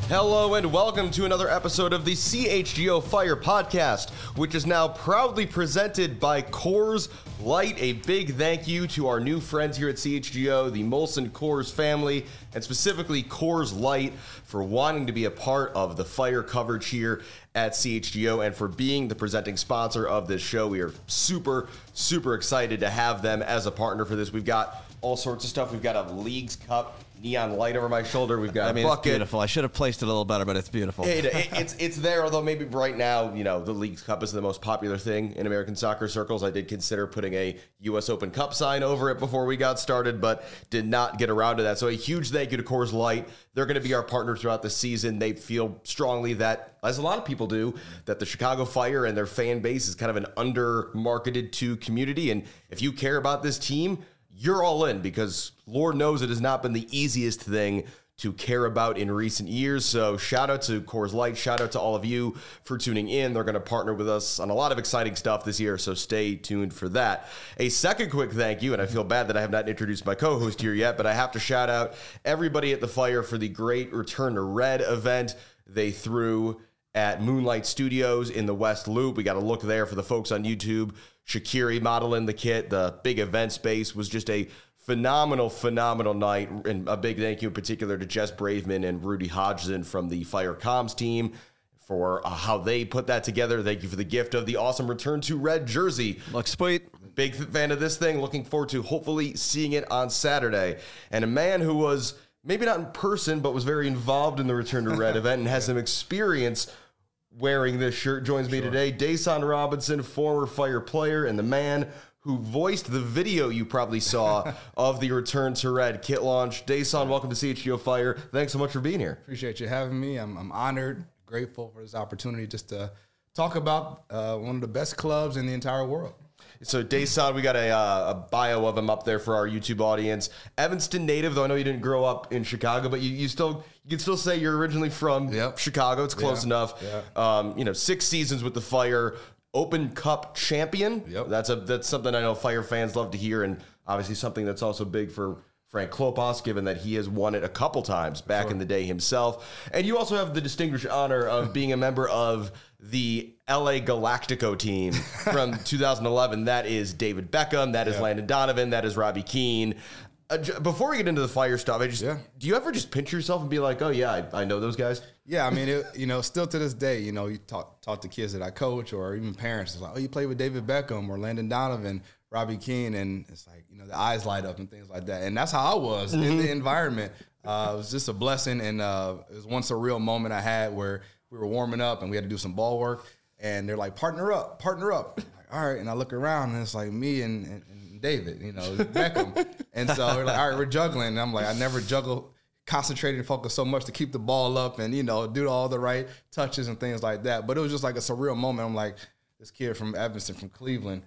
Hello and welcome to another episode of the CHGO Fire Podcast, which is now proudly presented by Coors Light. A big thank you to our new friends here at CHGO, the Molson Coors family, and specifically Coors Light for wanting to be a part of the fire coverage here at CHGO and for being the presenting sponsor of this show. We are super excited to have them as a partner for this. We've got all sorts of stuff. We've got a Leagues Cup neon light over my shoulder. We've got a bucket. It's beautiful. I should have placed it a little better, but it's beautiful. It's there, although maybe right now, the Leagues Cup is the most popular thing in American soccer circles. I did consider putting a U.S. Open Cup sign over it before we got started, but did not get around to that. So a huge thank you to Coors Light. They're going to be our partner throughout the season. They feel strongly that, as a lot of people do, that the Chicago Fire and their fan base is kind of an under-marketed to community. And if you care about this team, you're all in, because Lord knows it has not been the easiest thing to care about in recent years. So shout out to Coors Light. Shout out to all of you for tuning in. They're going to partner with us on a lot of exciting stuff this year, so stay tuned for that. A second quick thank you, and I feel bad that I have not introduced my co-host here yet, but I have to shout out everybody at the Fire for the great Return to Red event they threw at Moonlight Studios in the West Loop. We got a look there for the folks on YouTube. Shaqiri modeling the kit. The big event space was just a phenomenal night. And a big thank you in particular to Jess Braveman and Rudy Hodgson from the Fire Comms team for how they put that together. Thank you for the gift of the awesome Return to Red jersey. Looks sweet. Big fan of this thing. Looking forward to hopefully seeing it on Saturday. And a man who was maybe not in person, but was very involved in the Return to Red event and has some experience wearing this shirt joins me today. Dason Robinson, former Fire player and the man who voiced the video you probably saw of the Return to Red kit launch. Dason, welcome to CHGO Fire. Thanks so much for being here. Appreciate you having me. I'm honored, grateful for this opportunity just to talk about one of the best clubs in the entire world. So Dason, we got a bio of him up there for our YouTube audience. Evanston native, though I know you didn't grow up in Chicago, but you can still say you're originally from Chicago. It's close enough. Yeah. 6 seasons with the Fire, Open Cup champion. Yep. That's something I know Fire fans love to hear, and obviously something that's also big for Frank Klopas, given that he has won it a couple times back in the day himself. And you also have the distinguished honor of being a member of the LA Galactico team from 2011. That is David Beckham. That is Landon Donovan. That is Robbie Keane. Before we get into the Fire stuff, do you ever just pinch yourself and be like, oh, yeah, I know those guys? Yeah, I mean, still to this day, you talk to kids that I coach or even parents. It's like, oh, you played with David Beckham or Landon Donovan, Robbie Keane, and it's like, the eyes light up and things like that. And that's how I was in the environment. It was just a blessing, and it was one surreal moment I had where we were warming up and we had to do some ball work, and they're like, partner up. I'm like, all right, and I look around, and it's like me and David, Beckham. And so we're like, all right, we're juggling. And I'm like, I never juggle, concentrated and focus so much to keep the ball up and, do all the right touches and things like that. But it was just like a surreal moment. I'm like, this kid from Evanston, from Cleveland,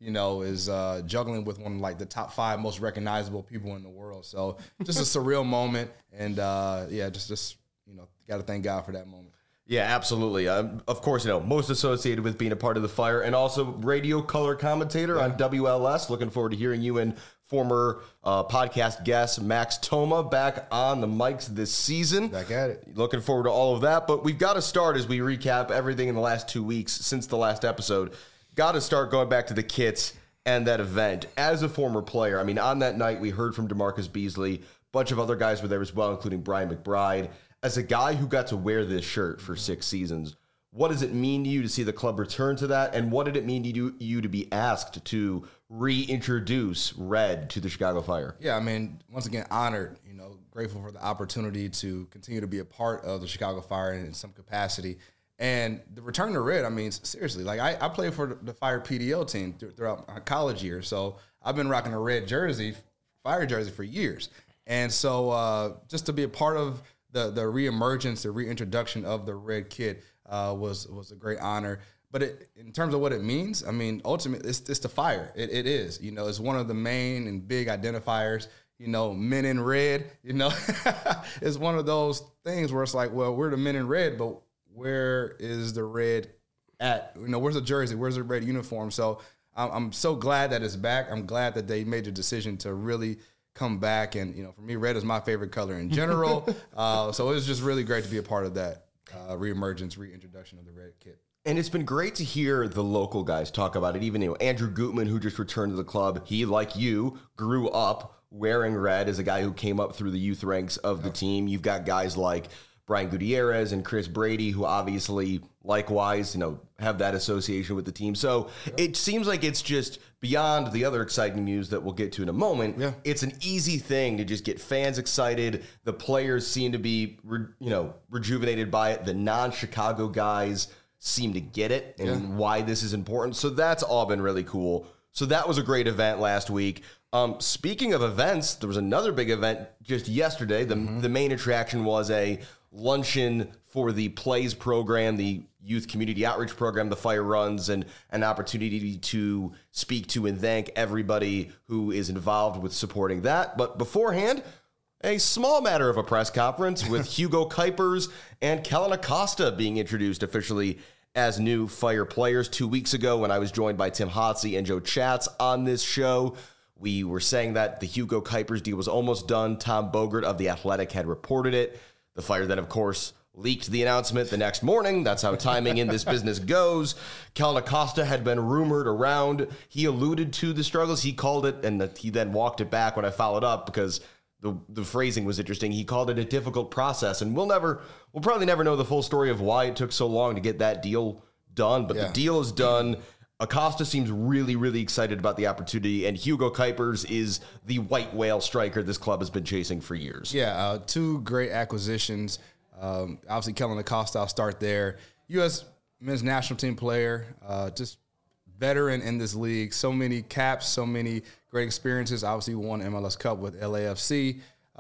is juggling with one of like the top 5 most recognizable people in the world. So just a surreal moment. And just got to thank God for that moment. Yeah, absolutely. Of course, most associated with being a part of the Fire, and also radio color commentator on WLS. Looking forward to hearing you and former podcast guest Max Toma back on the mics this season. Back at it. Looking forward to all of that. But we've got to start as we recap everything in the last 2 weeks since the last episode. Got to start going back to the kits and that event. As a former player, I mean, on that night we heard from DeMarcus Beasley. A bunch of other guys were there as well, including Brian McBride. As a guy who got to wear this shirt for 6 seasons, what does it mean to you to see the club return to that? And what did it mean to you to be asked to reintroduce Red to the Chicago Fire? Yeah, I mean, once again, honored, grateful for the opportunity to continue to be a part of the Chicago Fire in some capacity. And the return to Red, I mean, seriously, like I played for the Fire PDO team throughout my college years. So I've been rocking a red jersey, Fire jersey for years. And so just to be a part of the reemergence, the reintroduction of the red kit was a great honor. But in terms of what it means, I mean, ultimately, it's the Fire. It is. It's one of the main and big identifiers. Men in red, it's one of those things where it's like, well, we're the men in red, but where is the red at? Where's the jersey? Where's the red uniform? So I'm so glad that it's back. I'm glad that they made the decision to really come back. And, for me, red is my favorite color in general. So it was just really great to be a part of that reemergence, reintroduction of the red kit. And it's been great to hear the local guys talk about it. Even Andrew Gutman, who just returned to the club, he, like you, grew up wearing red as a guy who came up through the youth ranks of the team. You've got guys like Brian Gutierrez and Chris Brady, who obviously likewise, have that association with the team. So it seems like it's just beyond the other exciting news that we'll get to in a moment. Yeah. It's an easy thing to just get fans excited. The players seem to be, rejuvenated by it. The non-Chicago guys seem to get it and why this is important. So that's all been really cool. So that was a great event last week. Speaking of events, there was another big event just yesterday. The main attraction was a luncheon for the PLAYS program, the youth community outreach program the Fire runs, and an opportunity to speak to and thank everybody who is involved with supporting that. But beforehand, a small matter of a press conference with Hugo Kuipers and Kellen Acosta being introduced officially as new Fire players 2 weeks ago when I was joined by Tim Hotsey and Joe Chatz on this show. We were saying that the Hugo Kuipers deal was almost done. Tom Bogert of The Athletic had reported it. The Fire then, of course, leaked the announcement the next morning. That's how timing in this business goes. Kellen Acosta had been rumored around. He alluded to the struggles. He called it, and he then walked it back when I followed up because the phrasing was interesting. He called it a difficult process, and we'll probably never know the full story of why it took so long to get that deal done, but the deal is done. Acosta seems really, really excited about the opportunity, and Hugo Kuipers is the white whale striker this club has been chasing for years. Yeah, two great acquisitions. Obviously, Kellen Acosta, I'll start there. U.S. men's national team player, just veteran in this league. So many caps, so many great experiences. Obviously, won MLS Cup with LAFC.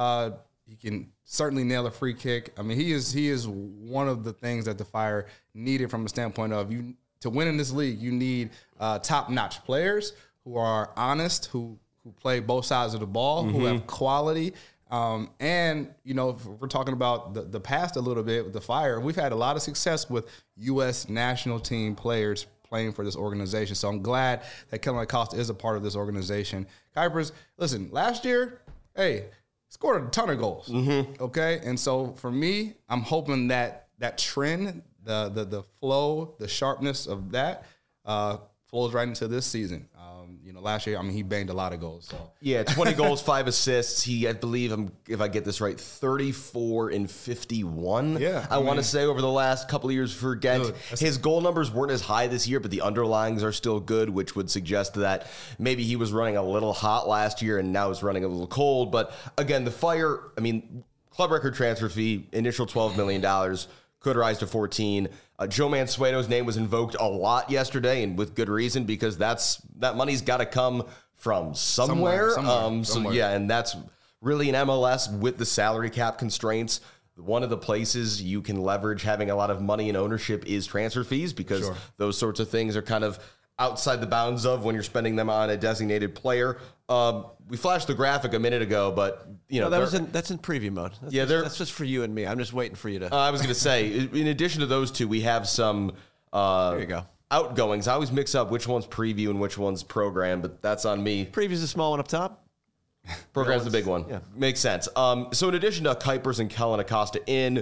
He can certainly nail a free kick. I mean, he is one of the things that the Fire needed from a standpoint of to win in this league, you need top-notch players who are honest, who play both sides of the ball, who have quality. And, if we're talking about the past a little bit with the Fire, we've had a lot of success with U.S. national team players playing for this organization. So I'm glad that Kellen Acosta is a part of this organization. Kuipers, listen, last year, scored a ton of goals, okay? And so for me, I'm hoping that trend, the flow, the sharpness of that flows right into this season. Last year, he banged a lot of goals. So. Yeah, 20 goals, 5 assists. He, I believe, if I get this right, 34 and 51. Yeah, I want to say over the last couple of years for Ghent. His goal numbers weren't as high this year, but the underlyings are still good, which would suggest that maybe he was running a little hot last year and now is running a little cold. But again, the Fire, club record transfer fee, initial $12 million. Could rise to 14. Joe Mansueto's name was invoked a lot yesterday, and with good reason, because that money's got to come from somewhere. So yeah, and that's really an MLS with the salary cap constraints. One of the places you can leverage having a lot of money and ownership is transfer fees, because those sorts of things are kind of outside the bounds of when you're spending them on a designated player. We flashed the graphic a minute ago, but that's in preview mode. That's just for you and me. I'm just waiting for you to. I was going to say, in addition to those two, we have some there you go. Outgoings. I always mix up which one's preview and which one's program, but that's on me. Preview's the small one up top. Program's the big one. Yeah. Makes sense. So in addition to Kuipers and Kellen Acosta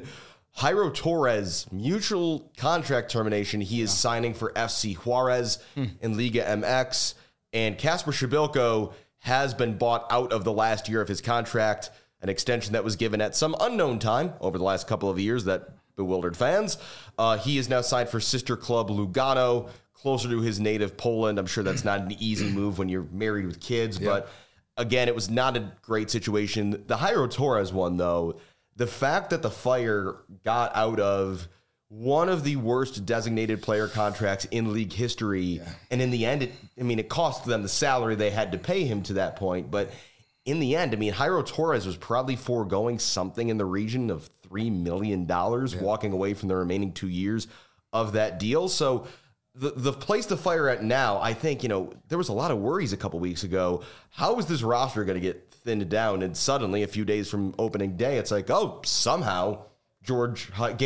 Jairo Torres, mutual contract termination. He is signing for FC Juarez in Liga MX. And Kasper Shabilko has been bought out of the last year of his contract, an extension that was given at some unknown time over the last couple of years that bewildered fans. He is now signed for sister club Lugano, closer to his native Poland. I'm sure that's not an easy move when you're married with kids, but again, it was not a great situation. The Jairo Torres one, though, the fact that the Fire got out of one of the worst designated player contracts in league history, and in the end, it cost them the salary they had to pay him to that point, but in the end, Jairo Torres was probably foregoing something in the region of $3 million, walking away from the remaining 2 years of that deal. So the place the Fire at now, I think, there was a lot of worries a couple weeks ago. How is this roster going to get thinned down? And suddenly, a few days from opening day, it's like, somehow Georg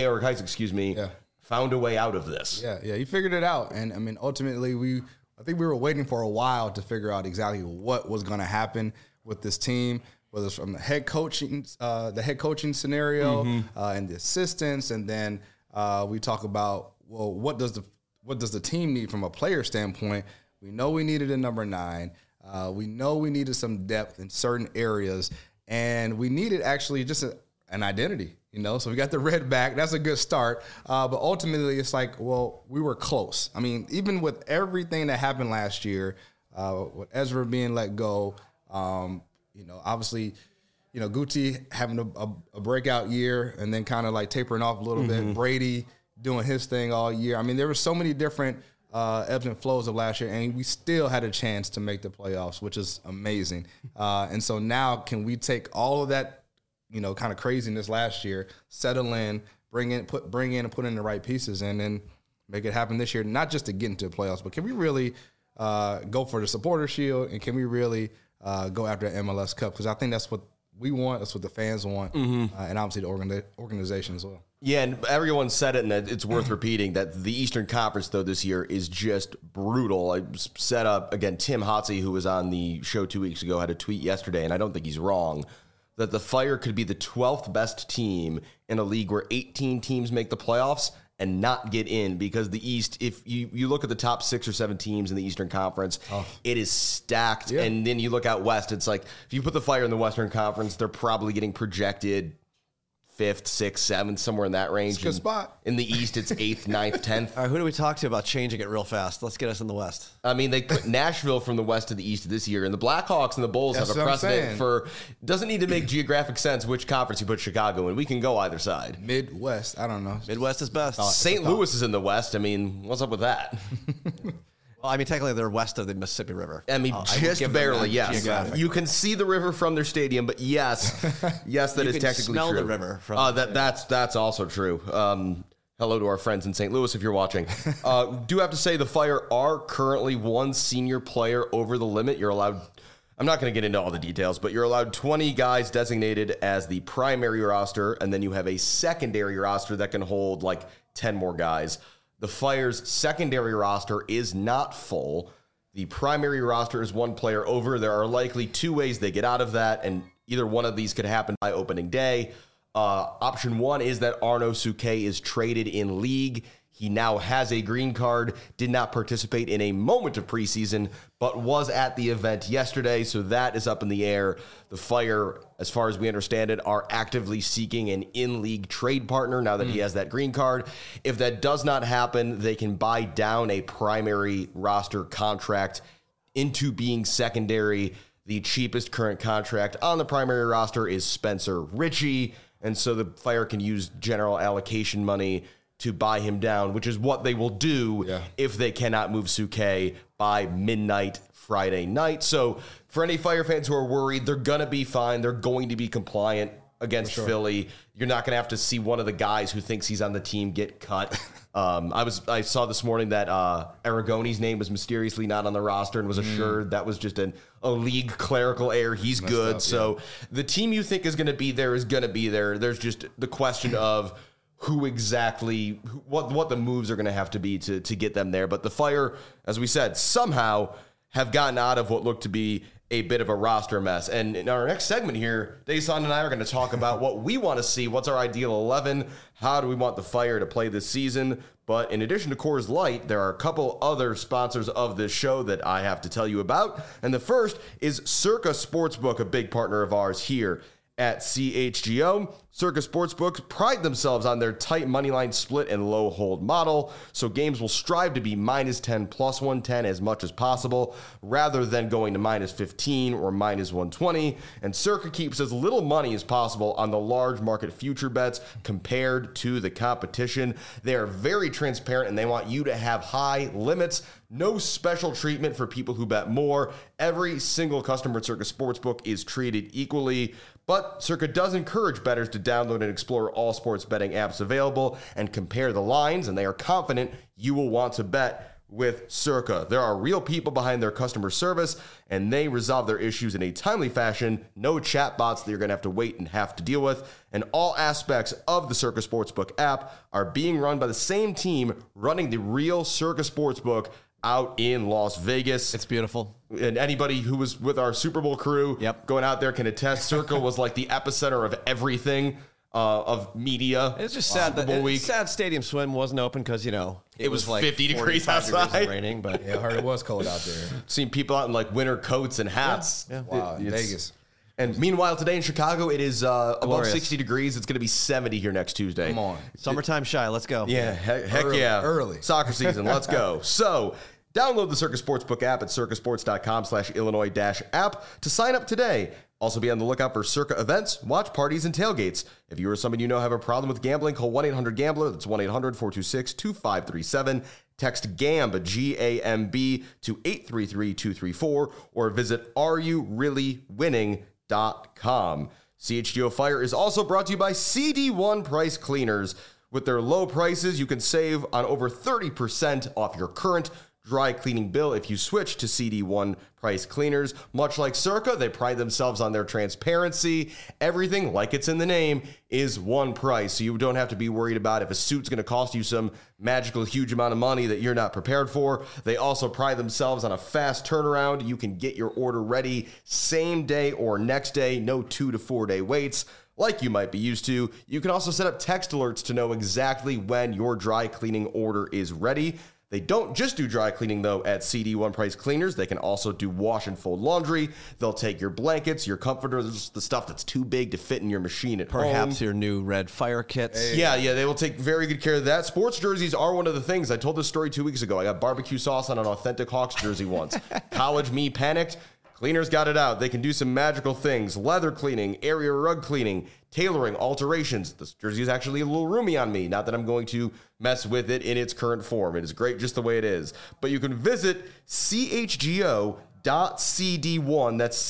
Heise, found a way out of this. Yeah, he figured it out. And ultimately, I think we were waiting for a while to figure out exactly what was going to happen with this team. whether it's from the head coaching scenario and the assistants, and then we talk about, well, what does the team need from a player standpoint? We know we needed a number 9. We know we needed some depth in certain areas, and we needed actually just an identity, So we got the red back. That's a good start. But ultimately, it's like, well, we were close. I mean, even with everything that happened last year, with Ezra being let go, obviously, Guti having a breakout year and then kind of like tapering off a little bit. Brady doing his thing all year. I mean, there were so many different ebbs and flows of last year, and we still had a chance to make the playoffs, which is amazing. And so now, can we take all of that, kind of craziness last year, settle in, bring in and put in the right pieces, and then make it happen this year? Not just to get into the playoffs, but can we really go for the Supporter Shield, and can we really go after the MLS Cup? Because I think that's what we want, that's what the fans want, and obviously the organization as well. Yeah, and everyone said it, and it's worth repeating that the Eastern Conference, though, this year is just brutal. I set up, again, Tim Hotze, who was on the show 2 weeks ago, had a tweet yesterday, and I don't think he's wrong, that the Fire could be the 12th best team in a league where 18 teams make the playoffs and not get in, because the East, if you look at the top 6 or 7 teams in the Eastern Conference, it is stacked. Yeah. And then you look out West, it's like, if you put the Fire in the Western Conference, they're probably getting projected 5th, 6th, 7th, somewhere in that range. It's a good spot. In the East, it's 8th, 9th, 10th. All right, who do we talk to about changing it real fast? Let's get us in the West. I mean, they put Nashville from the West to the East this year, and the Blackhawks and the Bulls have a precedent for, doesn't need to make geographic sense which conference you put Chicago in. We can go either side. Midwest, I don't know. Midwest is best. St. Louis is in the West. I mean, what's up with that? Well, I mean, technically, they're west of the Mississippi River. I mean, just barely, yes. You can see the river from their stadium, but yes, that is technically true. You can smell the river. That's also true. Hello to our friends in St. Louis if you're watching. Do have to say the Fire are currently 1 senior player over the limit. You're allowed, I'm not going to get into all the details, but you're allowed 20 guys designated as the primary roster, and then you have a secondary roster that can hold like 10 more guys. The Fire's secondary roster is not full. The primary roster is 1 player over. There are likely 2 ways they get out of that, and either one of these could happen by opening day. Option 1 is that Arno Suke is traded in league. He now has a green card, did not participate in a moment of preseason, but was at the event yesterday, so that is up in the air. The Fire, as far as we understand it, are actively seeking an in-league trade partner now that he has that green card. If that does not happen, they can buy down a primary roster contract into being secondary. The cheapest current contract on the primary roster is Spencer Ritchie, and so the Fire can use general allocation money to buy him down, which is what they will do if they cannot move Suke by midnight Friday night. So for any Fire fans who are worried, they're going to be fine. They're going to be compliant against Philly. You're not going to have to see one of the guys who thinks he's on the team get cut. I saw this morning that Aragoni's name was mysteriously not on the roster and was assured that was just a league clerical error. He's good. So the team you think is going to be there is going to be there. There's just the question of who exactly, what the moves are going to have to be to get them there. But the Fire, as we said, somehow have gotten out of what looked to be a bit of a roster mess. And in our next segment here, Dason and I are going to talk about what we want to see. What's our ideal 11? How do we want the Fire to play this season? But in addition to Coors Light, there are a couple other sponsors of this show that I have to tell you about. And the first is Circa Sportsbook, a big partner of ours here at CHGO. Circa Sportsbooks pride themselves on their tight moneyline split and low hold model, so games will strive to be -10 plus 110 as much as possible, rather than going to -15 or -120. And Circa keeps as little money as possible on the large market future bets compared to the competition. They are very transparent and they want you to have high limits. No special treatment for people who bet more. Every single customer at Circa Sportsbook is treated equally. But Circa does encourage bettors to download and explore all sports betting apps available and compare the lines, and they are confident you will want to bet with Circa. There are real people behind their customer service, and they resolve their issues in a timely fashion. No chatbots that you're going to have to wait and have to deal with. And all aspects of the Circa Sportsbook app are being run by the same team running the real Circa Sportsbook out in Las Vegas. It's beautiful. And anybody who was with our Super Bowl crew going out there can attest. Circa was like the epicenter of everything. Of media. It's just sad that sad Stadium Swim wasn't open because, it was like 50 degrees outside. And raining, but I heard it was cold out there. Seen people out in like winter coats and hats. Yeah. Wow, Vegas. And meanwhile, today in Chicago, it is above 60 degrees. It's going to be 70 here next Tuesday. Come on. Summertime shy. Let's go. Yeah, heck yeah. Early. Soccer season. Let's go. So, download the Circa Sportsbook app at circasports.com/Illinois-app to sign up today. Also be on the lookout for Circa events, watch parties, and tailgates. If you or someone you know have a problem with gambling, call 1-800-GAMBLER. That's 1-800-426-2537. Text GAMB, G-A-M-B, to 833-234, or visit areyoureallywinning.com. CHGO Fire is also brought to you by CD1 Price Cleaners. With their low prices, you can save on over 30% off your current dry cleaning bill if you switch to CD1 Price Cleaners. Much like Circa, they pride themselves on their transparency. Everything, like it's in the name, is one price, so you don't have to be worried about if a suit's going to cost you some magical huge amount of money that you're not prepared for. They also pride themselves on a fast turnaround. You can get your order ready same day or next day, no 2 to 4 day waits like you might be used to. You can also set up text alerts to know exactly when your dry cleaning order is ready. They don't just do dry cleaning, though, at CD1 Price Cleaners. They can also do wash and fold laundry. They'll take your blankets, your comforters, the stuff that's too big to fit in your machine at home. Perhaps your new red fire kits. Hey. Yeah, they will take very good care of that. Sports jerseys are one of the things. I told this story 2 weeks ago. I got barbecue sauce on an authentic Hawks jersey once. College me panicked. Cleaners got it out. They can do some magical things. Leather cleaning, area rug cleaning, tailoring, alterations. This jersey is actually a little roomy on me. Not that I'm going to mess with it in its current form. It is great just the way it is. But you can visit chgo.cd1. That's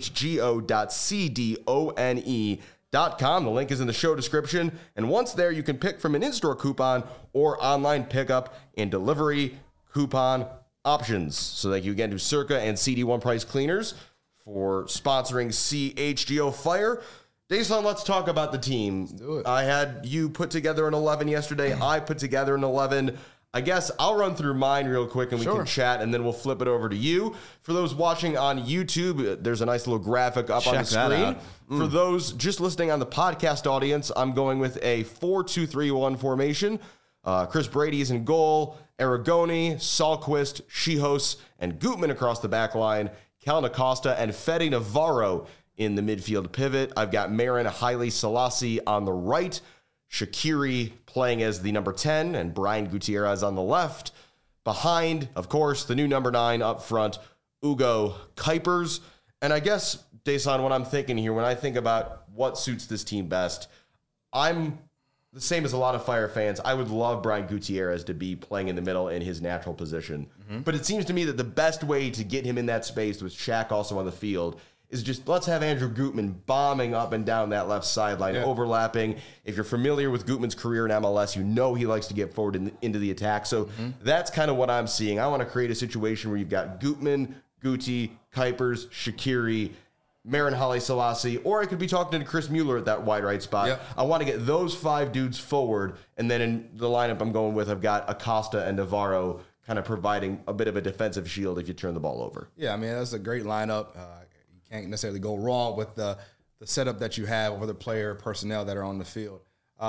chgo.cdone.com. The link is in the show description. And once there, you can pick from an in-store coupon or online pickup and delivery coupon options. So thank you again to Circa and CD1 Price Cleaners for sponsoring CHGO Fire. Dason, let's talk about the team. Let's do it. I had you put together an 11 yesterday. I put together an 11. I guess I'll run through mine real quick and we can chat, and then we'll flip it over to you. For those watching on YouTube, there's a nice little graphic up on the screen. For those just listening on the podcast audience, I'm going with a 4-2-3-1 formation. Chris Brady is in goal. Aragoni, Salquist, Schihos, and Gutman across the back line. Cal Acosta and Fede Navarro in the midfield pivot. I've got Marin Haile Selassie on the right. Shaqiri playing as the number 10 and Brian Gutierrez on the left. Behind, of course, the new number 9 up front, Ugo Kuipers. And I guess, Dason, what I'm thinking here, when I think about what suits this team best, I'm the same as a lot of Fire fans. I would love Brian Gutierrez to be playing in the middle in his natural position. But it seems to me that the best way to get him in that space with Shaq also on the field is just let's have Andrew Gutman bombing up and down that left sideline, overlapping. If you're familiar with Gutman's career in MLS, you know he likes to get forward into the attack. So that's kind of what I'm seeing. I want to create a situation where you've got Gutman, Guti, Kuipers, Shaqiri, Marin Haile Selassie, or I could be talking to Chris Mueller at that wide right spot. Yep. I want to get those 5 dudes forward, and then in the lineup I'm going with, I've got Acosta and Navarro kind of providing a bit of a defensive shield if you turn the ball over. Yeah, I mean, that's a great lineup. You can't necessarily go wrong with the setup that you have over the player personnel that are on the field.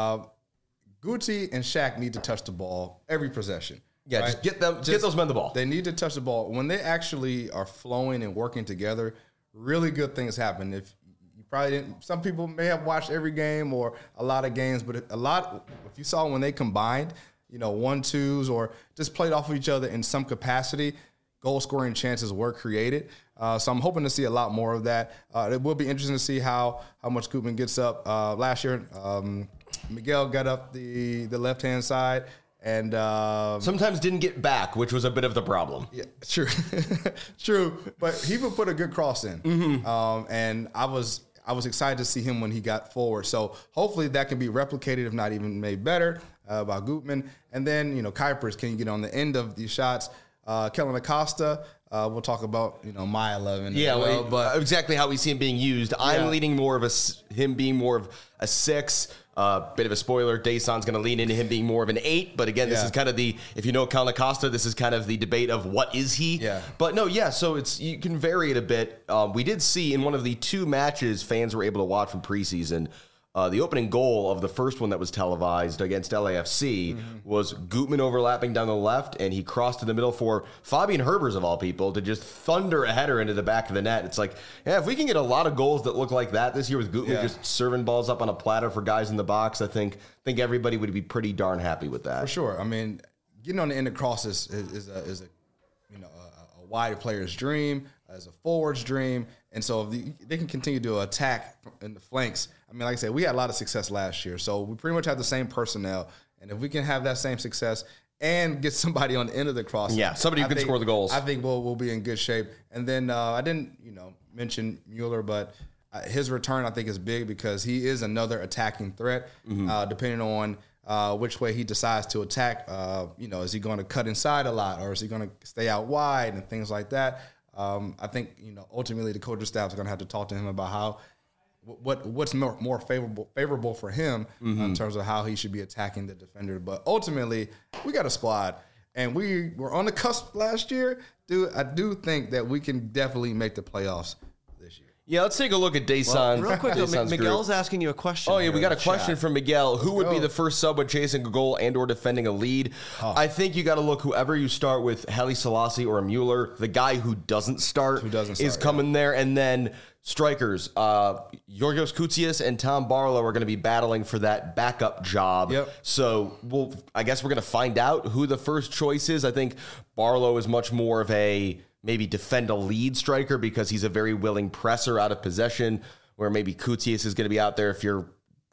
Guti and Shaq need to touch the ball every possession. Yeah, right? Get those men the ball. They need to touch the ball. When they actually are flowing and working together, really good things happen. If you probably didn't, some people may have watched every game or a lot of games, but if you saw when they combined, 1-2s or just played off of each other in some capacity, goal scoring chances were created. So I'm hoping to see a lot more of that. It will be interesting to see how much Gutman gets up. Last year, Miguel got up the left-hand side. And sometimes didn't get back, which was a bit of the problem. Yeah, true, true. But he would put a good cross in, and I was excited to see him when he got forward. So hopefully that can be replicated, if not even made better, by Gutman. And then Kuipers, can you get on the end of these shots? Kellen Acosta, we'll talk about my 11. Yeah, as well, but exactly how we see him being used. I'm leaning more of him being more of a 6. Bit of a spoiler, Dayson's going to lean into him being more of an 8. But again, this is kind of if you know Colin Acosta, this is kind of the debate of what is he. Yeah. But no, so you can vary it a bit. We did see in one of the 2 matches fans were able to watch from preseason, the opening goal of the first one that was televised against LAFC was Gutman overlapping down the left, and he crossed to the middle for Fabian Herbers, of all people, to just thunder a header into the back of the net. It's like, if we can get a lot of goals that look like that this year with Gutman just serving balls up on a platter for guys in the box, I think everybody would be pretty darn happy with that. For sure. I mean, getting on the end of crosses is a wide player's dream, as a forward's dream. And so if they can continue to attack in the flanks. I mean, like I said, we had a lot of success last year. So we pretty much have the same personnel. And if we can have that same success and get somebody on the end of the cross. Yeah, somebody who can score the goals. I think we'll be in good shape. And then I didn't, mention Mueller, but his return I think is big because he is another attacking threat, depending on which way he decides to attack. Is he going to cut inside a lot, or is he going to stay out wide and things like that? I think ultimately the coaching staff is going to have to talk to him about how what's more favorable for him in terms of how he should be attacking the defender. But ultimately, we got a squad, and we were on the cusp last year. I do think that we can definitely make the playoffs this year. Yeah, let's take a look at Dason. Real quick, Miguel's asking you a question. Oh, yeah, we got a question chat. from Miguel. Who would be the first sub with chasing a goal and or defending a lead? I think you got to look whoever you start with, Haile Selassie or Mueller. The guy who doesn't start is coming there. And then strikers, Yorgos Koutsias and Tom Barlow are going to be battling for that backup job. Yep. So I guess we're going to find out who the first choice is. I think Barlow is much more of a maybe defend a lead striker because he's a very willing presser out of possession, where maybe Koutsias is going to be out there if you're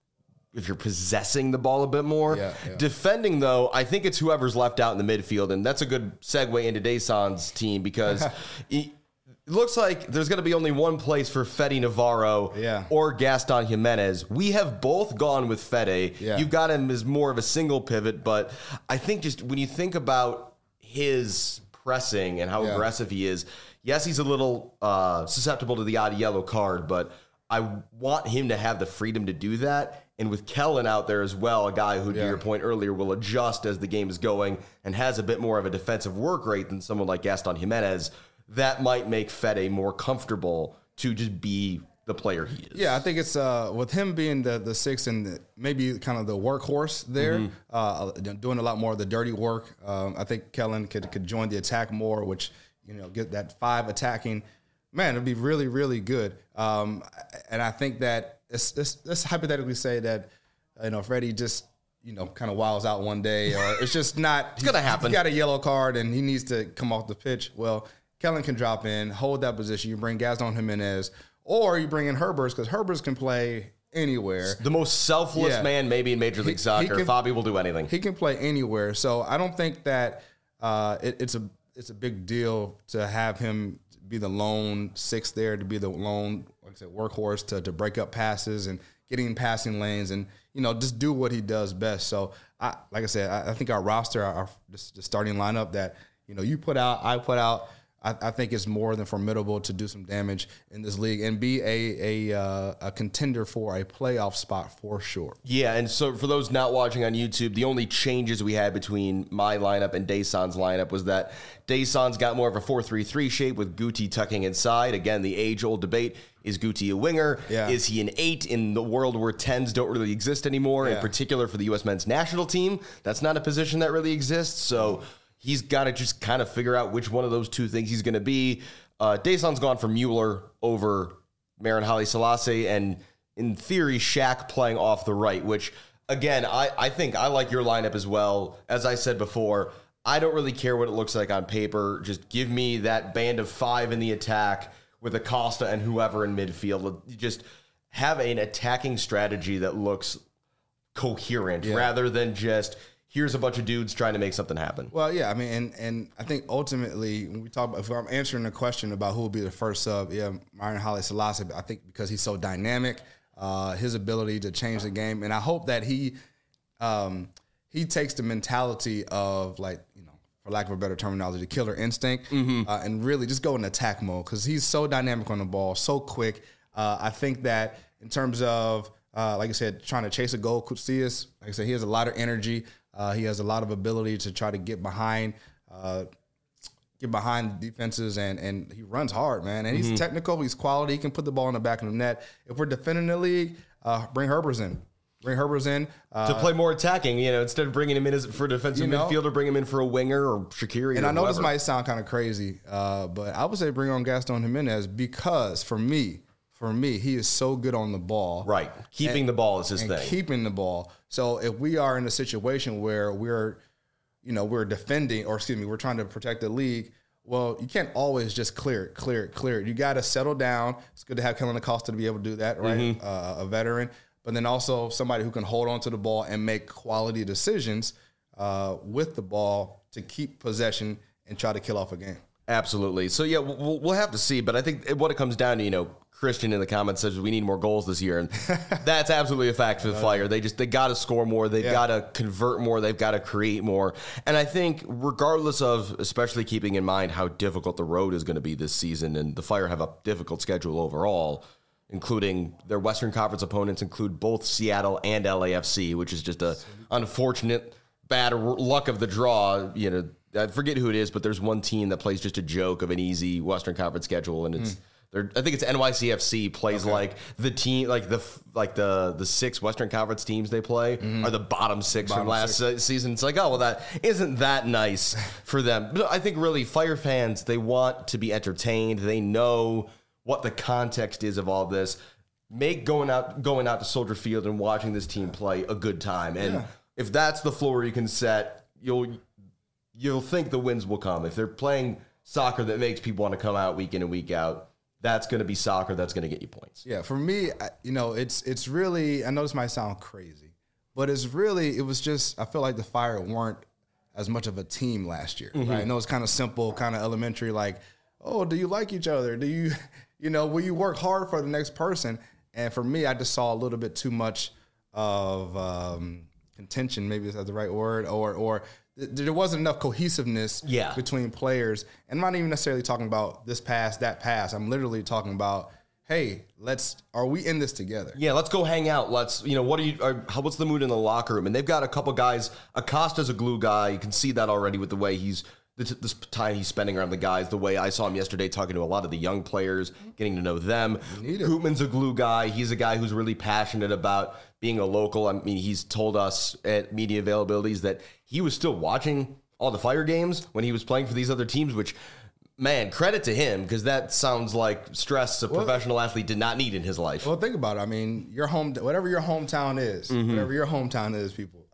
possessing the ball a bit more. Yeah. Defending, though, I think it's whoever's left out in the midfield, and that's a good segue into Dason's team because it looks like there's going to be only one place for Fede Navarro or Gaston Jimenez. We have both gone with Fede. Yeah. You've got him as more of a single pivot, but I think just when you think about his pressing and how aggressive he is, yes, he's a little susceptible to the odd yellow card, but I want him to have the freedom to do that. And with Kellen out there as well, a guy who, to your point earlier, will adjust as the game is going and has a bit more of a defensive work rate than someone like Gaston Jimenez, that might make Fede more comfortable to just be the player he is. Yeah, I think it's with him being the 6 and maybe kind of the workhorse there, doing a lot more of the dirty work. I think Kellen could join the attack more, which get that 5 attacking. Man, it'd be really, really good. And I think that let's hypothetically say that Freddie just kind of wiles out one day, or it's just not. It's gonna happen. He got a yellow card and he needs to come off the pitch. Well, Kellen can drop in, hold that position. You bring Gaston Jimenez. Or you bring in Herbers, because Herbers can play anywhere. The most selfless man maybe in Major League Soccer. Fabi will do anything. He can play anywhere. So I don't think that it's a big deal to have him be the lone 6 there, to be the lone, like I said, workhorse to break up passes and getting in passing lanes and, just do what he does best. So, like I said, I think our roster, the starting lineup that, you put out, I put out, I think it's more than formidable to do some damage in this league and be a contender for a playoff spot for sure. Yeah, and so for those not watching on YouTube, the only changes we had between my lineup and Dason's lineup was that Dason's got more of a 4-3-3 shape with Guti tucking inside. Again, the age-old debate, is Guti a winger? Yeah. Is he an 8 in the world where 10s don't really exist anymore, in particular for the U.S. men's national team? That's not a position that really exists, so he's got to just kind of figure out which one of those two things he's going to be. Dason's gone for Mueller over Marin Haile Selassie, and in theory, Shaq playing off the right, which, again, I think I like your lineup as well. As I said before, I don't really care what it looks like on paper. Just give me that band of 5 in the attack with Acosta and whoever in midfield. Just have an attacking strategy that looks coherent rather than just here's a bunch of dudes trying to make something happen. Well, yeah, I mean, and I think ultimately when we talk about, if I'm answering the question about who will be the first sub, Marin Haile Selassie, I think because he's so dynamic, his ability to change the game, and I hope that he takes the mentality of for lack of a better terminology, killer instinct, and really just go in attack mode because he's so dynamic on the ball, so quick. I think that in terms of, like I said, trying to chase a goal, Koutsias, like I said, he has a lot of energy. He has a lot of ability to try to get behind defenses, and he runs hard, man. And he's technical. He's quality. He can put the ball in the back of the net. If we're defending the league, bring Herbers in. To play more attacking, instead of bringing him in as for a defensive midfielder, bring him in for a winger or Shaqiri. And I know whoever. this might sound kind of crazy, but I would say bring on Gaston Jimenez because for me, he is so good on the ball. Right. Keeping the ball is his thing. Keeping the ball. So if we are in a situation where we're defending, we're trying to protect the league, well, you can't always just clear it. You got to settle down. It's good to have Kellen Acosta to be able to do that, right? A veteran. But then also somebody who can hold on to the ball and make quality decisions with the ball to keep possession and try to kill off a game. Absolutely. So, yeah, we'll have to see. But I think what it comes down to, Christian in the comments says we need more goals this year. And that's absolutely a fact for the Fire. They got to score more. They've got to convert more. They've got to create more. And I think regardless of, especially keeping in mind how difficult the road is going to be this season, and the Fire have a difficult schedule overall, including their Western Conference opponents include both Seattle and LAFC, which is just a unfortunate bad luck of the draw. I forget who it is, but there's one team that plays just a joke of an easy Western Conference schedule, and it's I think it's NYCFC plays like the team, like the 6 Western Conference teams they play are the bottom 6 from last season. It's like, oh, well, that isn't that nice for them. But I think really Fire fans, they want to be entertained. They know what the context is of all this. Make going out to Soldier Field and watching this team play a good time. And if that's the floor you can set, you'll think the wins will come. If they're playing soccer that makes people want to come out week in and week out, that's going to be soccer that's going to get you points. Yeah, for me, it's really, I know this might sound crazy, but it was just, I feel like the Fire weren't as much of a team last year. Right? I know it's kind of simple, kind of elementary, like, oh, do you like each other? Do you, will you work hard for the next person? And for me, I just saw a little bit too much of contention, maybe is that the right word, or there wasn't enough cohesiveness between players. And I'm not even necessarily talking about this pass, that pass. I'm literally talking about, hey, are we in this together? Yeah, let's go hang out. What's the mood in the locker room? And they've got a couple guys. Acosta's a glue guy. You can see that already with the way this time he's spending around the guys, the way I saw him yesterday talking to a lot of the young players, getting to know them. Koopman's a glue guy. He's a guy who's really passionate about being a local. I mean, he's told us at media availabilities that he was still watching all the Fire games when he was playing for these other teams, which, man, credit to him, because that sounds like stress a professional athlete did not need in his life. Well, think about it. I mean, whatever your hometown is, people,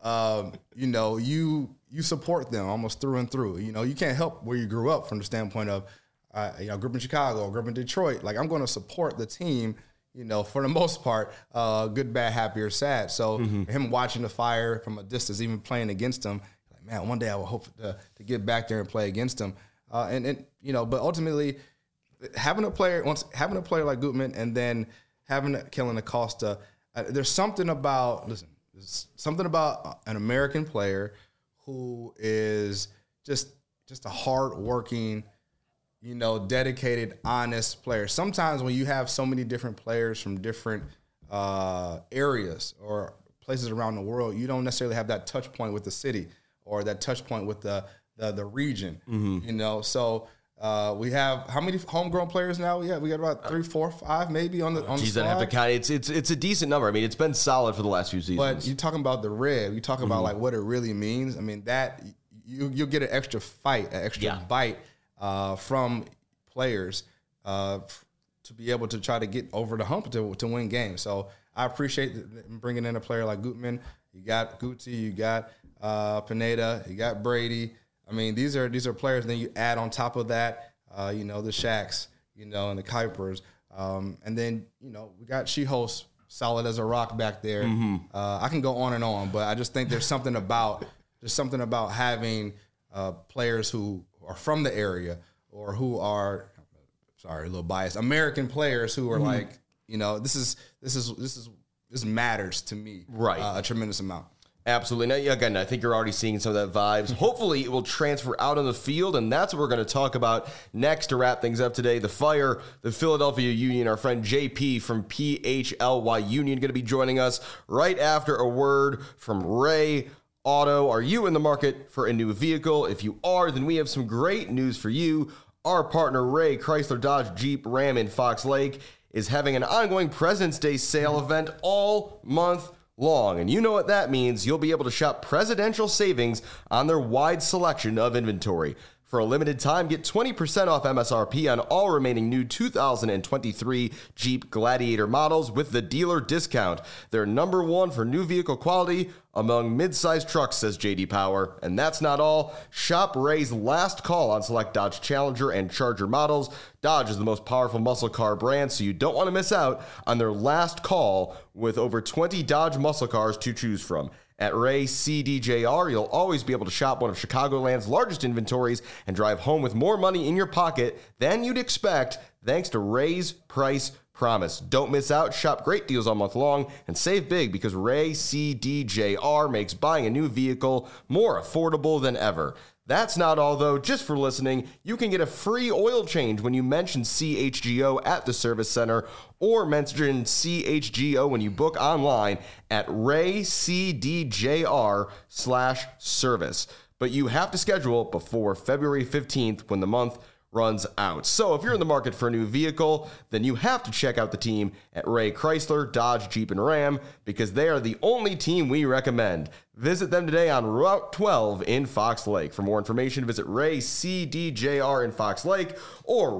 you support them almost through and through. You can't help where you grew up from the standpoint of, grew up in Chicago, grew up in Detroit. Like, I'm going to support the team, for the most part, good, bad, happy, or sad. So him watching the Fire from a distance, even playing against them, like, man, one day I will hope to get back there and play against them. But ultimately, having a player like Gutman and then having Kellen Acosta, there's something about an American player who is just a hardworking, dedicated, honest player. Sometimes when you have so many different players from different areas or places around the world, you don't necessarily have that touch point with the city or that touch point with the region. So we have how many homegrown players now? We got about 3, 4, 5 maybe on the squad. I have to count. It's a decent number. I mean, it's been solid for the last few seasons. But you talking about the red, you talking about like what it really means. I mean, that you'll get an extra bite from players to be able to try to get over the hump to win games. So I appreciate bringing in a player like Gutman. You got Guti, you got Pineda, you got Brady. I mean, these are players. Then you add on top of that, the Shaqs, and the Kuipers, and then we got Chihos solid as a rock back there. I can go on and on, but I just think there's something about having players who are from the area or who are, sorry, a little biased, American players who are like, this matters to me, right? A tremendous amount. Absolutely. Now, again, I think you're already seeing some of that vibes. Hopefully, it will transfer out on the field, and that's what we're going to talk about next to wrap things up today. The Fire, the Philadelphia Union, our friend JP from PHLY Union going to be joining us right after a word from Ray Auto. Are you in the market for a new vehicle? If you are, then we have some great news for you. Our partner, Ray Chrysler Dodge Jeep Ram in Fox Lake, is having an ongoing President's Day sale event all month long. And you know what that means. You'll be able to shop presidential savings on their wide selection of inventory. For a limited time, get 20% off MSRP on all remaining new 2023 Jeep Gladiator models with the dealer discount. They're number one for new vehicle quality among mid-sized trucks, says J.D. Power. And that's not all. Shop Ray's last call on select Dodge Challenger and Charger models. Dodge is the most powerful muscle car brand, so you don't want to miss out on their last call with over 20 Dodge muscle cars to choose from. At Ray CDJR, you'll always be able to shop one of Chicagoland's largest inventories and drive home with more money in your pocket than you'd expect thanks to Ray's Price Promise. Don't miss out. Shop great deals all month long and save big because Ray CDJR makes buying a new vehicle more affordable than ever. That's not all, though. Just for listening, you can get a free oil change when you mention CHGO at the service center or mention CHGO when you book online at raycdjr/service. But you have to schedule before February 15th when the month runs out. So if you're in the market for a new vehicle, then you have to check out the team at Ray Chrysler, Dodge, Jeep, and Ram because they are the only team we recommend. Visit them today on Route 12 in Fox Lake. For more information, visit Ray CDJR in Fox Lake or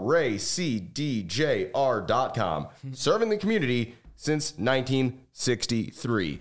raycdjr.com. Serving the community since 1963.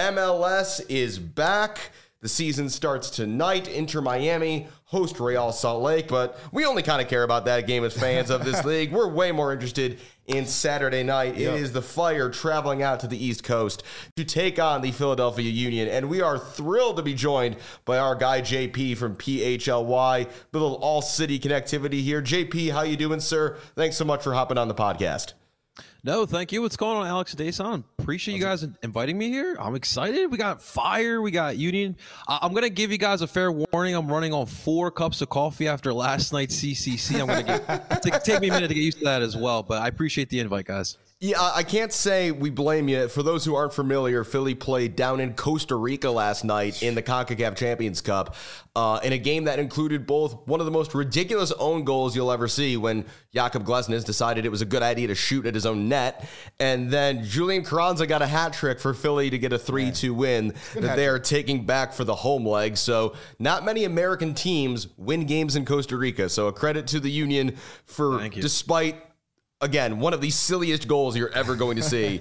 MLS is back. The season starts tonight. Inter Miami host Real Salt Lake, but we only kind of care about that game as fans of this league. We're way more interested in Saturday night. Yep. It is the Fire traveling out to the East Coast to take on the Philadelphia Union, and we are thrilled to be joined by our guy JP from PHLY. The little all-city connectivity here. JP, how you doing, sir? Thanks so much for hopping on the podcast. No, thank you. What's going on, Alex Dason? Appreciate you guys inviting me here. I'm excited. We got Fire. We got Union. I'm going to give you guys a fair warning. I'm running on 4 cups of coffee after last night's CCC. I'm going to take me a minute to get used to that as well, but I appreciate the invite, guys. Yeah, I can't say we blame you. For those who aren't familiar, Philly played down in Costa Rica last night in the CONCACAF Champions Cup in a game that included both one of the most ridiculous own goals you'll ever see when Jakob Glesnes decided it was a good idea to shoot at his own net, and then Julian Carranza got a hat trick for Philly to get a 3-2 win that they are taking back for the home leg. So not many American teams win games in Costa Rica. So a credit to the Union for, despite again, one of the silliest goals you're ever going to see,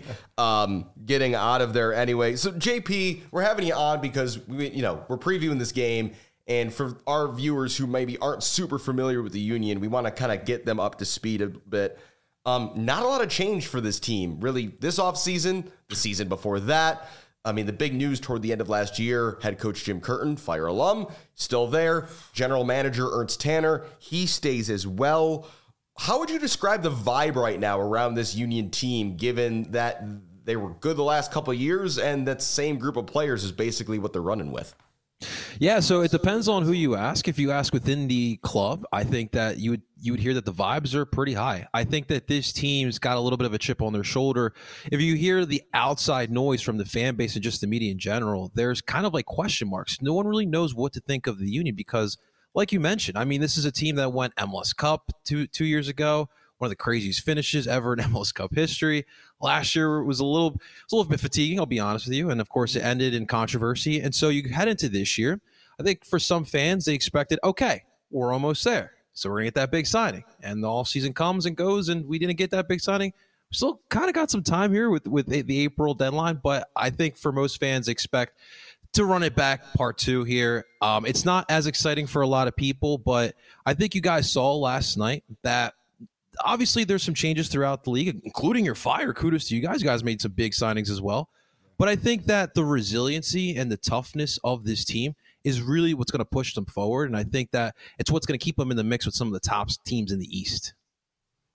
getting out of there anyway. So, JP, we're having you on because we're previewing this game, and for our viewers who maybe aren't super familiar with the Union, we want to kind of get them up to speed a bit. Not a lot of change for this team, really, this offseason, the season before that. I mean, the big news toward the end of last year, head coach Jim Curtin, Fire alum, still there. General manager Ernst Tanner, he stays as well. How would you describe the vibe right now around this Union team, given that they were good the last couple of years and that same group of players is basically what they're running with? Yeah, so it depends on who you ask. If you ask within the club, I think that you would hear that the vibes are pretty high. I think that this team's got a little bit of a chip on their shoulder. If you hear the outside noise from the fan base and just the media in general, there's kind of like question marks. No one really knows what to think of the Union because, like you mentioned, I mean, this is a team that went MLS Cup two years ago, one of the craziest finishes ever in MLS Cup history. Last year was a little bit fatiguing, I'll be honest with you. And, of course, it ended in controversy. And so you head into this year. I think for some fans, they expected, okay, we're almost there. So we're going to get that big signing. And the offseason comes and goes, and we didn't get that big signing. We still kind of got some time here with the April deadline. But I think for most fans, expect to run it back part 2 here. It's not as exciting for a lot of people, but I think you guys saw last night that obviously there's some changes throughout the league, including your Fire. Kudos to you guys. You guys made some big signings as well. But I think that the resiliency and the toughness of this team is really what's going to push them forward. And I think that it's what's going to keep them in the mix with some of the top teams in the East.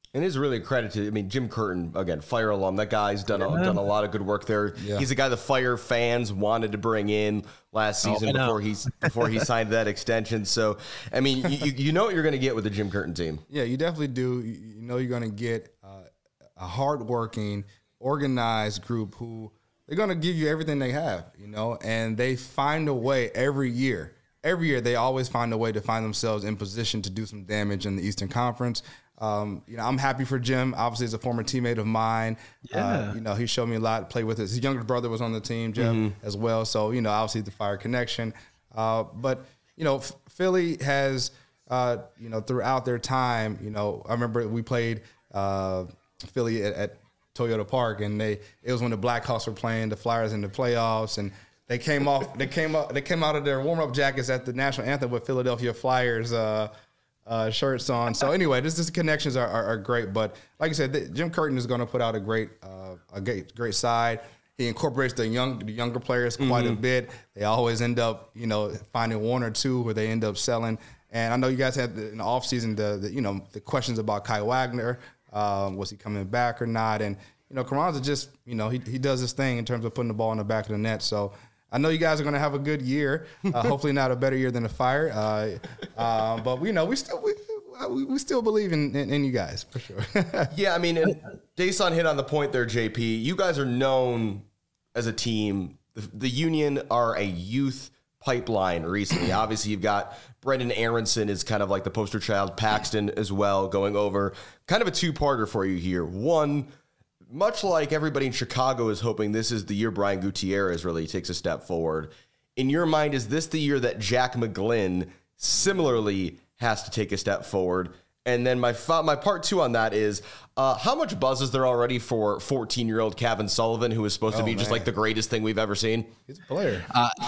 And it's really a credit to, I mean, Jim Curtin, again, Fire alum. That guy's done a lot of good work there. Yeah. He's a guy the Fire fans wanted to bring in last season before he signed that extension. So, I mean, you know what you're going to get with the Jim Curtin team. Yeah, you definitely do. You know you're going to get a hardworking, organized group who they're going to give you everything they have, you know, and they find a way every year. Every year they always find a way to find themselves in position to do some damage in the Eastern Conference. You know, I'm happy for Jim. Obviously, as a former teammate of mine, you know, he showed me a lot. Played with his younger brother was on the team, Jeff, as well. So, you know, obviously the Fire connection. But you know, Philly has, you know, throughout their time, you know, I remember we played Philly at Toyota Park, and it was when the Blackhawks were playing the Flyers in the playoffs, and they came out of their warm-up jackets at the national anthem with Philadelphia Flyers shirts on. So anyway, this connections are great. But like I said, Jim Curtin is going to put out a great side. He incorporates the younger players quite a bit. They always end up, you know, finding one or two where they end up selling. And I know you guys had in the offseason the questions about Kai Wagner. Was he coming back or not? And you know, Carranza just, you know, he does his thing in terms of putting the ball in the back of the net. So I know you guys are going to have a good year. Hopefully not a better year than the Fire. But you know, we still believe in you guys for sure. Yeah, I mean, and Dason hit on the point there, JP. You guys are known as a team. The Union are a youth pipeline recently. Obviously, you've got Brendan Aronson is kind of like the poster child, Paxton as well, going over. Kind of a two-parter for you here. One, much like everybody in Chicago is hoping this is the year Brian Gutierrez really takes a step forward. In your mind, is this the year that Jack McGlynn similarly has to take a step forward? And then my part two on that is, how much buzz is there already for 14-year-old Kevin Sullivan, who is supposed to be just like the greatest thing we've ever seen? He's a player.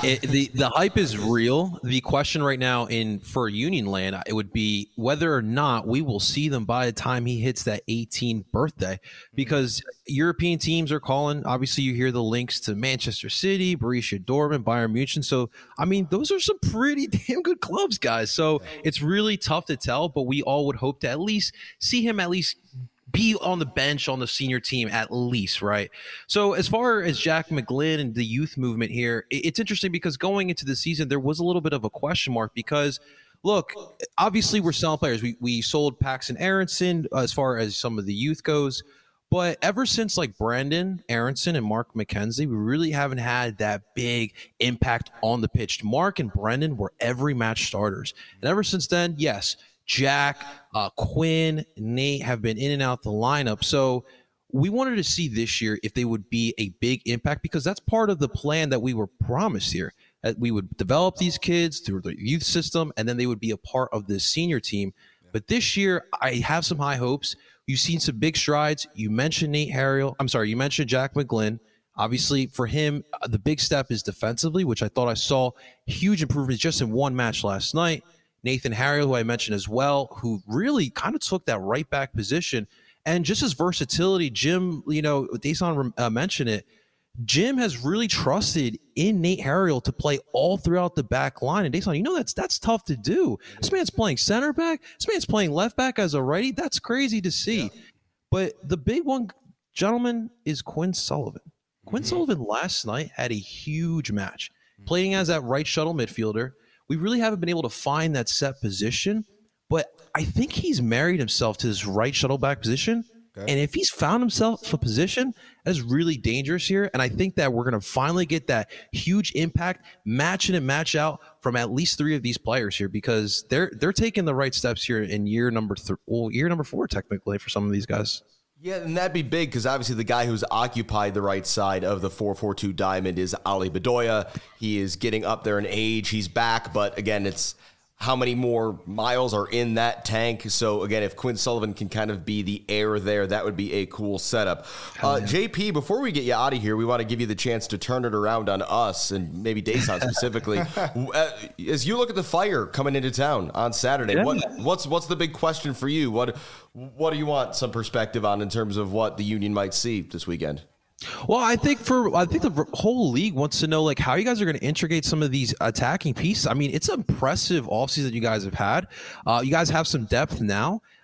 The hype is real. The question right now for Union Land, it would be whether or not we will see them by the time he hits that 18th birthday, because European teams are calling. Obviously, you hear the links to Manchester City, Borussia Dortmund, Bayern Munich. So, I mean, those are some pretty damn good clubs, guys. So it's really tough to tell, but we all would hope to at least see him be on the bench on the senior team at least, right? So as far as Jack McGlynn and the youth movement here, it's interesting because going into the season, there was a little bit of a question mark because, look, obviously we're selling players. We sold Paxton Aronson as far as some of the youth goes, but ever since like Brandon Aronson and Mark McKenzie, we really haven't had that big impact on the pitch. Mark and Brendan were every match starters. And ever since then, yes, Jack, Quinn, Nate have been in and out the lineup. So we wanted to see this year if they would be a big impact, because that's part of the plan that we were promised here. That we would develop these kids through the youth system, and then they would be a part of the senior team. But this year, I have some high hopes. You've seen some big strides. You mentioned you mentioned Jack McGlynn. Obviously, for him, the big step is defensively, which I thought I saw huge improvements just in one match last night. Nathan Harriel, who I mentioned as well, who really kind of took that right back position. And just his versatility, Jim, you know, Dason mentioned it, Jim has really trusted in Nate Harriel to play all throughout the back line. And Dason, you know, that's tough to do. This man's playing center back. This man's playing left back as a righty. That's crazy to see. Yeah. But the big one, gentlemen, is Quinn Sullivan. Quinn Sullivan last night had a huge match, playing as that right shuttle midfielder. We really haven't been able to find that set position, but I think he's married himself to this right shuttle back position. Okay. And if he's found himself a position, that is really dangerous here. And I think that we're going to finally get that huge impact, match in and match out from at least three of these players here, because they're taking the right steps here in year number 4, technically, for some of these guys. Yeah, and that'd be big because obviously the guy who's occupied the right side of the 4-4-2 diamond is Ali Bedoya. He is getting up there in age. He's back, but again, it's how many more miles are in that tank. So again, if Quinn Sullivan can kind of be the heir there, that would be a cool setup. JP, before we get you out of here, we want to give you the chance to turn it around on us and maybe Dason specifically. As you look at the Fire coming into town on Saturday, what's the big question for you? What do you want some perspective on in terms of what the Union might see this weekend? Well, I think the whole league wants to know like how you guys are going to integrate some of these attacking pieces. I mean, it's an impressive offseason you guys have had. You guys have some depth now.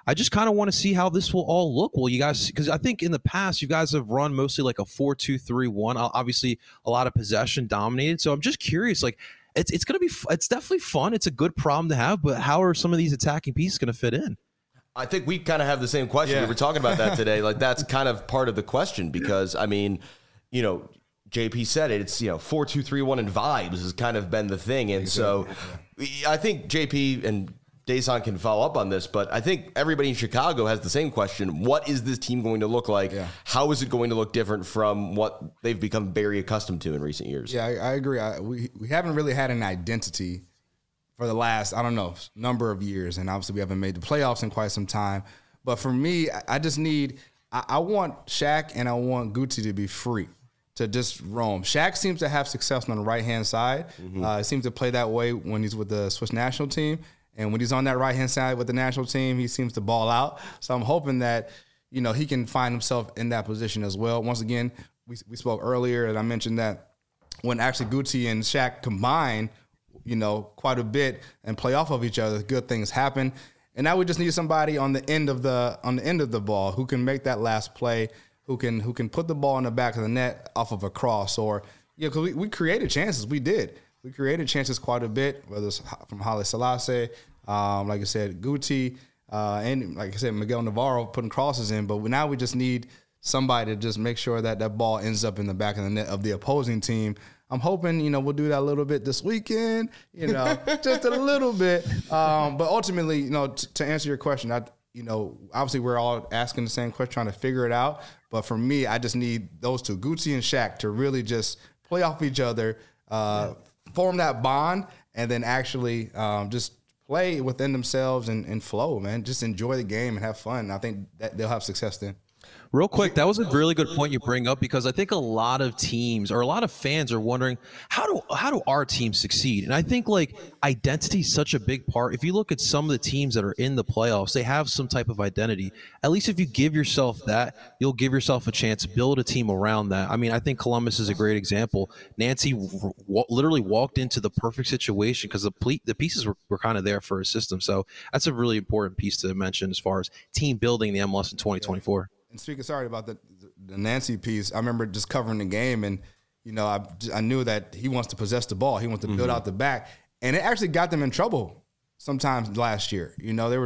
I just kind of want to see how this will all look. Well, you guys, because I think in the past you guys have run mostly like a 4-2-3-1. Obviously, a lot of possession dominated. So I'm just curious, like it's definitely fun. It's a good problem to have, but how are some of these attacking pieces going to fit in? I think we kind of have the same question. We were talking about that today. Like that's kind of part of the question because I mean, you know, JP said it. It's 4-2-3-1 and vibes has kind of been the thing, and so I think JP and Dason can follow up on this, but I think everybody in Chicago has the same question. What is this team going to look like? Yeah. How is it going to look different from what they've become very accustomed to in recent years? Yeah, I agree. We haven't really had an identity for the last, number of years, and obviously we haven't made the playoffs in quite some time. But for me, I just need I want Shaq and I want Guti to be free to just roam. Shaq seems to have success on the right-hand side. He seems to play that way when he's with the Swiss national team. And when he's on that right-hand side with the national team, he seems to ball out. So I'm hoping that, he can find himself in that position as well. Once again, we spoke earlier, and I mentioned that when actually Guti and Shaq combine, quite a bit and play off of each other, good things happen. And now we just need somebody on the end of the ball who can make that last play, who can put the ball in the back of the net off of a cross, or because we created chances. We did. We created chances quite a bit, whether it's from Haile Selassie, like I said, Guti, and like I said, Miguel Navarro putting crosses in. But now we just need somebody to just make sure that ball ends up in the back of the net of the opposing team. I'm hoping, we'll do that a little bit this weekend, just a little bit. But ultimately, to answer your question, obviously we're all asking the same question, trying to figure it out. But for me, I just need those two, Guti and Shaq, to really just play off each other, form that bond, and then actually just play within themselves and flow, man. Just enjoy the game and have fun. I think that they'll have success then. Real quick, that was a really good point you bring up, because I think a lot of teams or a lot of fans are wondering, how do our teams succeed? And I think like identity is such a big part. If you look at some of the teams that are in the playoffs, they have some type of identity. At least if you give yourself that, you'll give yourself a chance to build a team around that. I mean, I think Columbus is a great example. Nancy literally walked into the perfect situation because the pieces were kind of there for a system. So that's a really important piece to mention as far as team building the MLS in 2024. And speaking, sorry about the Nancy piece, I remember just covering the game, and I knew that he wants to possess the ball. He wants to build out the back, and it actually got them in trouble sometimes last year.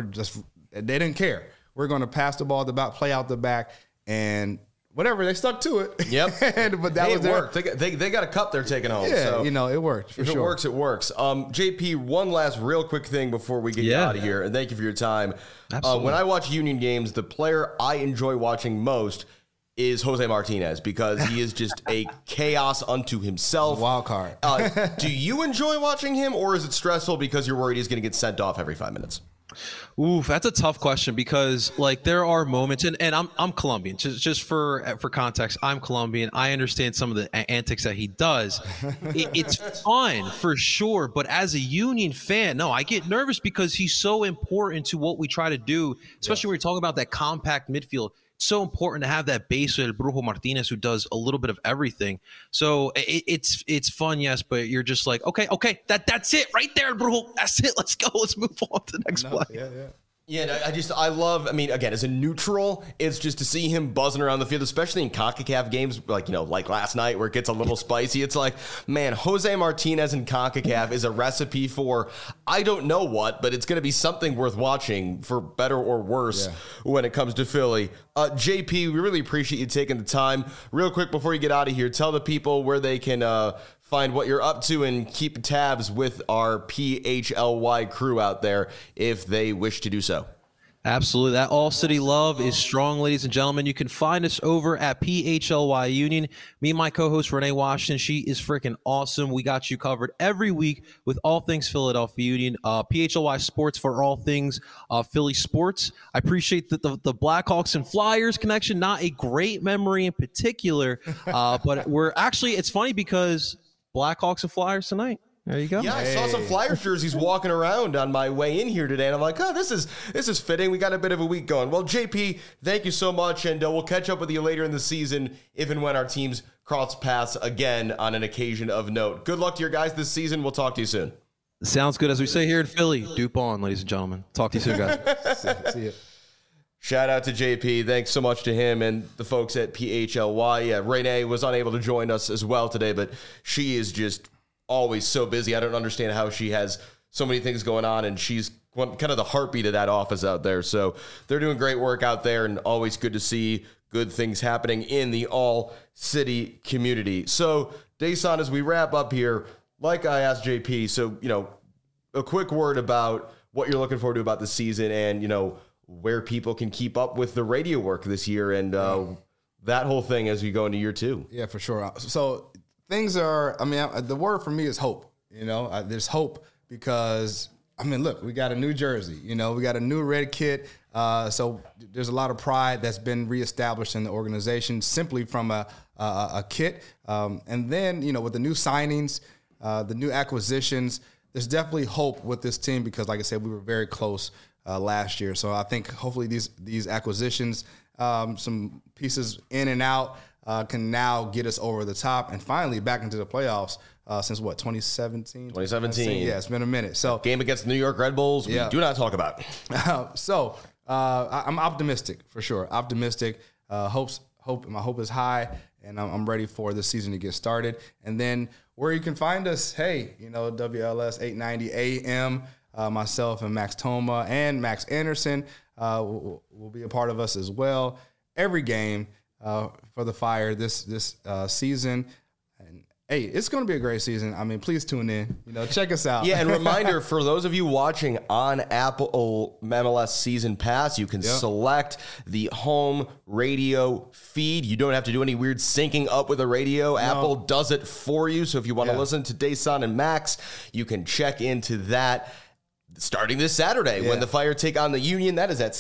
They didn't care. We're going to pass the ball at the back, play out the back, and whatever, they stuck to it. Yep. But that was worked. They got a cup they're taking home. Yeah, so it worked. For if sure. it works, it works. JP, one last real quick thing before we get you out of here, and thank you for your time. When I watch Union games, the player I enjoy watching most is Jose Martinez, because he is just a chaos unto himself. Wild card. Do you enjoy watching him, or is it stressful because you're worried he's going to get sent off every 5 minutes? Oof, that's a tough question, because like there are moments, and I'm Colombian. Just for context, I'm Colombian. I understand some of the antics that he does. It's fun for sure, but as a Union fan, no, I get nervous because he's so important to what we try to do, especially when you're talking about that compact midfield. It's so important to have that base with El Brujo Martinez, who does a little bit of everything. So it's fun, yes, but you're just like, okay, that's it right there, Brujo. That's it. Let's go. Let's move on to the next play. Yeah, I love, again, as a neutral, it's just to see him buzzing around the field, especially in CONCACAF games, like last night where it gets a little spicy. It's like, man, Jose Martinez in CONCACAF is a recipe for, I don't know what, but it's going to be something worth watching for better or worse when it comes to Philly. JP, we really appreciate you taking the time. Real quick before you get out of here, tell the people where they can find what you're up to and keep tabs with our PHLY crew out there if they wish to do so. Absolutely. That All City love is strong, ladies and gentlemen. You can find us over at PHLY Union. Me and my co-host, Renee Washington, she is freaking awesome. We got you covered every week with all things Philadelphia Union. PHLY Sports for all things Philly sports. I appreciate the Blackhawks and Flyers connection. Not a great memory in particular, but it's funny because Blackhawks and Flyers tonight. There you go. Yeah, I saw some Flyers jerseys walking around on my way in here today, and I'm like, oh, this is fitting. We got a bit of a week going. Well, JP, thank you so much, and we'll catch up with you later in the season if and when our teams cross paths again on an occasion of note. Good luck to your guys this season. We'll talk to you soon. Sounds good. As we say here in Philly, dupe on, ladies and gentlemen. Talk to you soon, guys. See you. Shout out to JP. Thanks so much to him and the folks at PHLY. Yeah, Renee was unable to join us as well today, but she is just always so busy. I don't understand how she has so many things going on, and she's kind of the heartbeat of that office out there. So they're doing great work out there, and always good to see good things happening in the all-city community. So, Dason, as we wrap up here, like I asked JP, so, a quick word about what you're looking forward to about the season and, where people can keep up with the radio work this year and that whole thing as we go into year 2. Yeah, for sure. So things are, the word for me is hope. There's hope because, look, we got a new jersey, we got a new red kit. So there's a lot of pride that's been reestablished in the organization simply from a kit. And then, with the new signings, the new acquisitions, there's definitely hope with this team because, like I said, we were very close last year. So I think hopefully these acquisitions, some pieces in and out, can now get us over the top and finally back into the playoffs since 2017? 2017. Yeah, it's been a minute. So game against the New York Red Bulls, we do not talk about. I'm optimistic for sure. Optimistic. My hope is high, and I'm ready for the season to get started. And then where you can find us, WLS 890 AM. Myself and Max Toma and Max Anderson will be a part of us as well. Every game for the Fire this season. And, hey, it's going to be a great season. Please tune in. Check us out. Yeah, and reminder, for those of you watching on Apple MLS Season Pass, you can select the home radio feed. You don't have to do any weird syncing up with a radio. No. Apple does it for you. So if you want to listen to Dason and Max, you can check into that. Starting this Saturday when the Fire take on the Union. That is at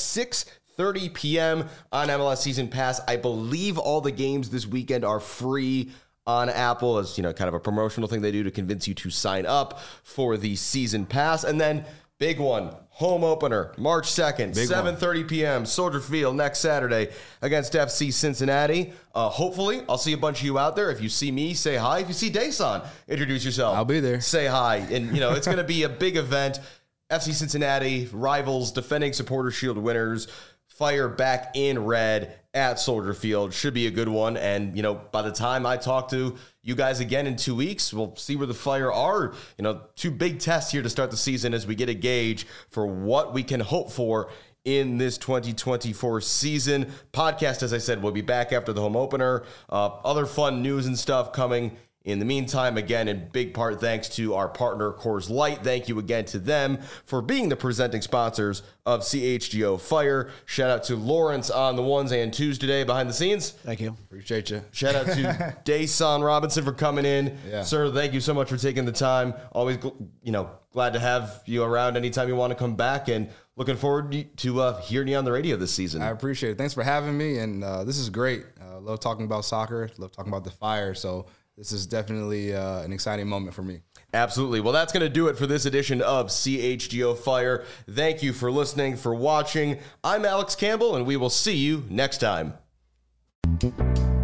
6:30 p.m. on MLS Season Pass. I believe all the games this weekend are free on Apple as, kind of a promotional thing they do to convince you to sign up for the Season Pass. And then big one, home opener, March 2nd, 7:30 p.m., Soldier Field next Saturday against FC Cincinnati. Hopefully, I'll see a bunch of you out there. If you see me, say hi. If you see Dason, introduce yourself. I'll be there. Say hi. And, it's going to be a big event. FC Cincinnati, rivals, defending Supporter Shield winners, Fire back in red at Soldier Field. Should be a good one. And, by the time I talk to you guys again in 2 weeks, we'll see where the Fire are. 2 big tests here to start the season as we get a gauge for what we can hope for in this 2024 season. Podcast, as I said, will be back after the home opener. Other fun news and stuff coming. In the meantime, again, in big part thanks to our partner, Coors Light. Thank you again to them for being the presenting sponsors of CHGO Fire. Shout out to Lawrence on the ones and twos today behind the scenes. Thank you. Appreciate you. Shout out to Dason Robinson for coming in. Yeah. Sir, thank you so much for taking the time. Always, glad to have you around anytime you want to come back, and looking forward to hearing you on the radio this season. I appreciate it. Thanks for having me, and this is great. Love talking about soccer. Love talking about the Fire, so this is definitely an exciting moment for me. Absolutely. Well, that's going to do it for this edition of CHGO Fire. Thank you for listening, for watching. I'm Alex Campbell, and we will see you next time.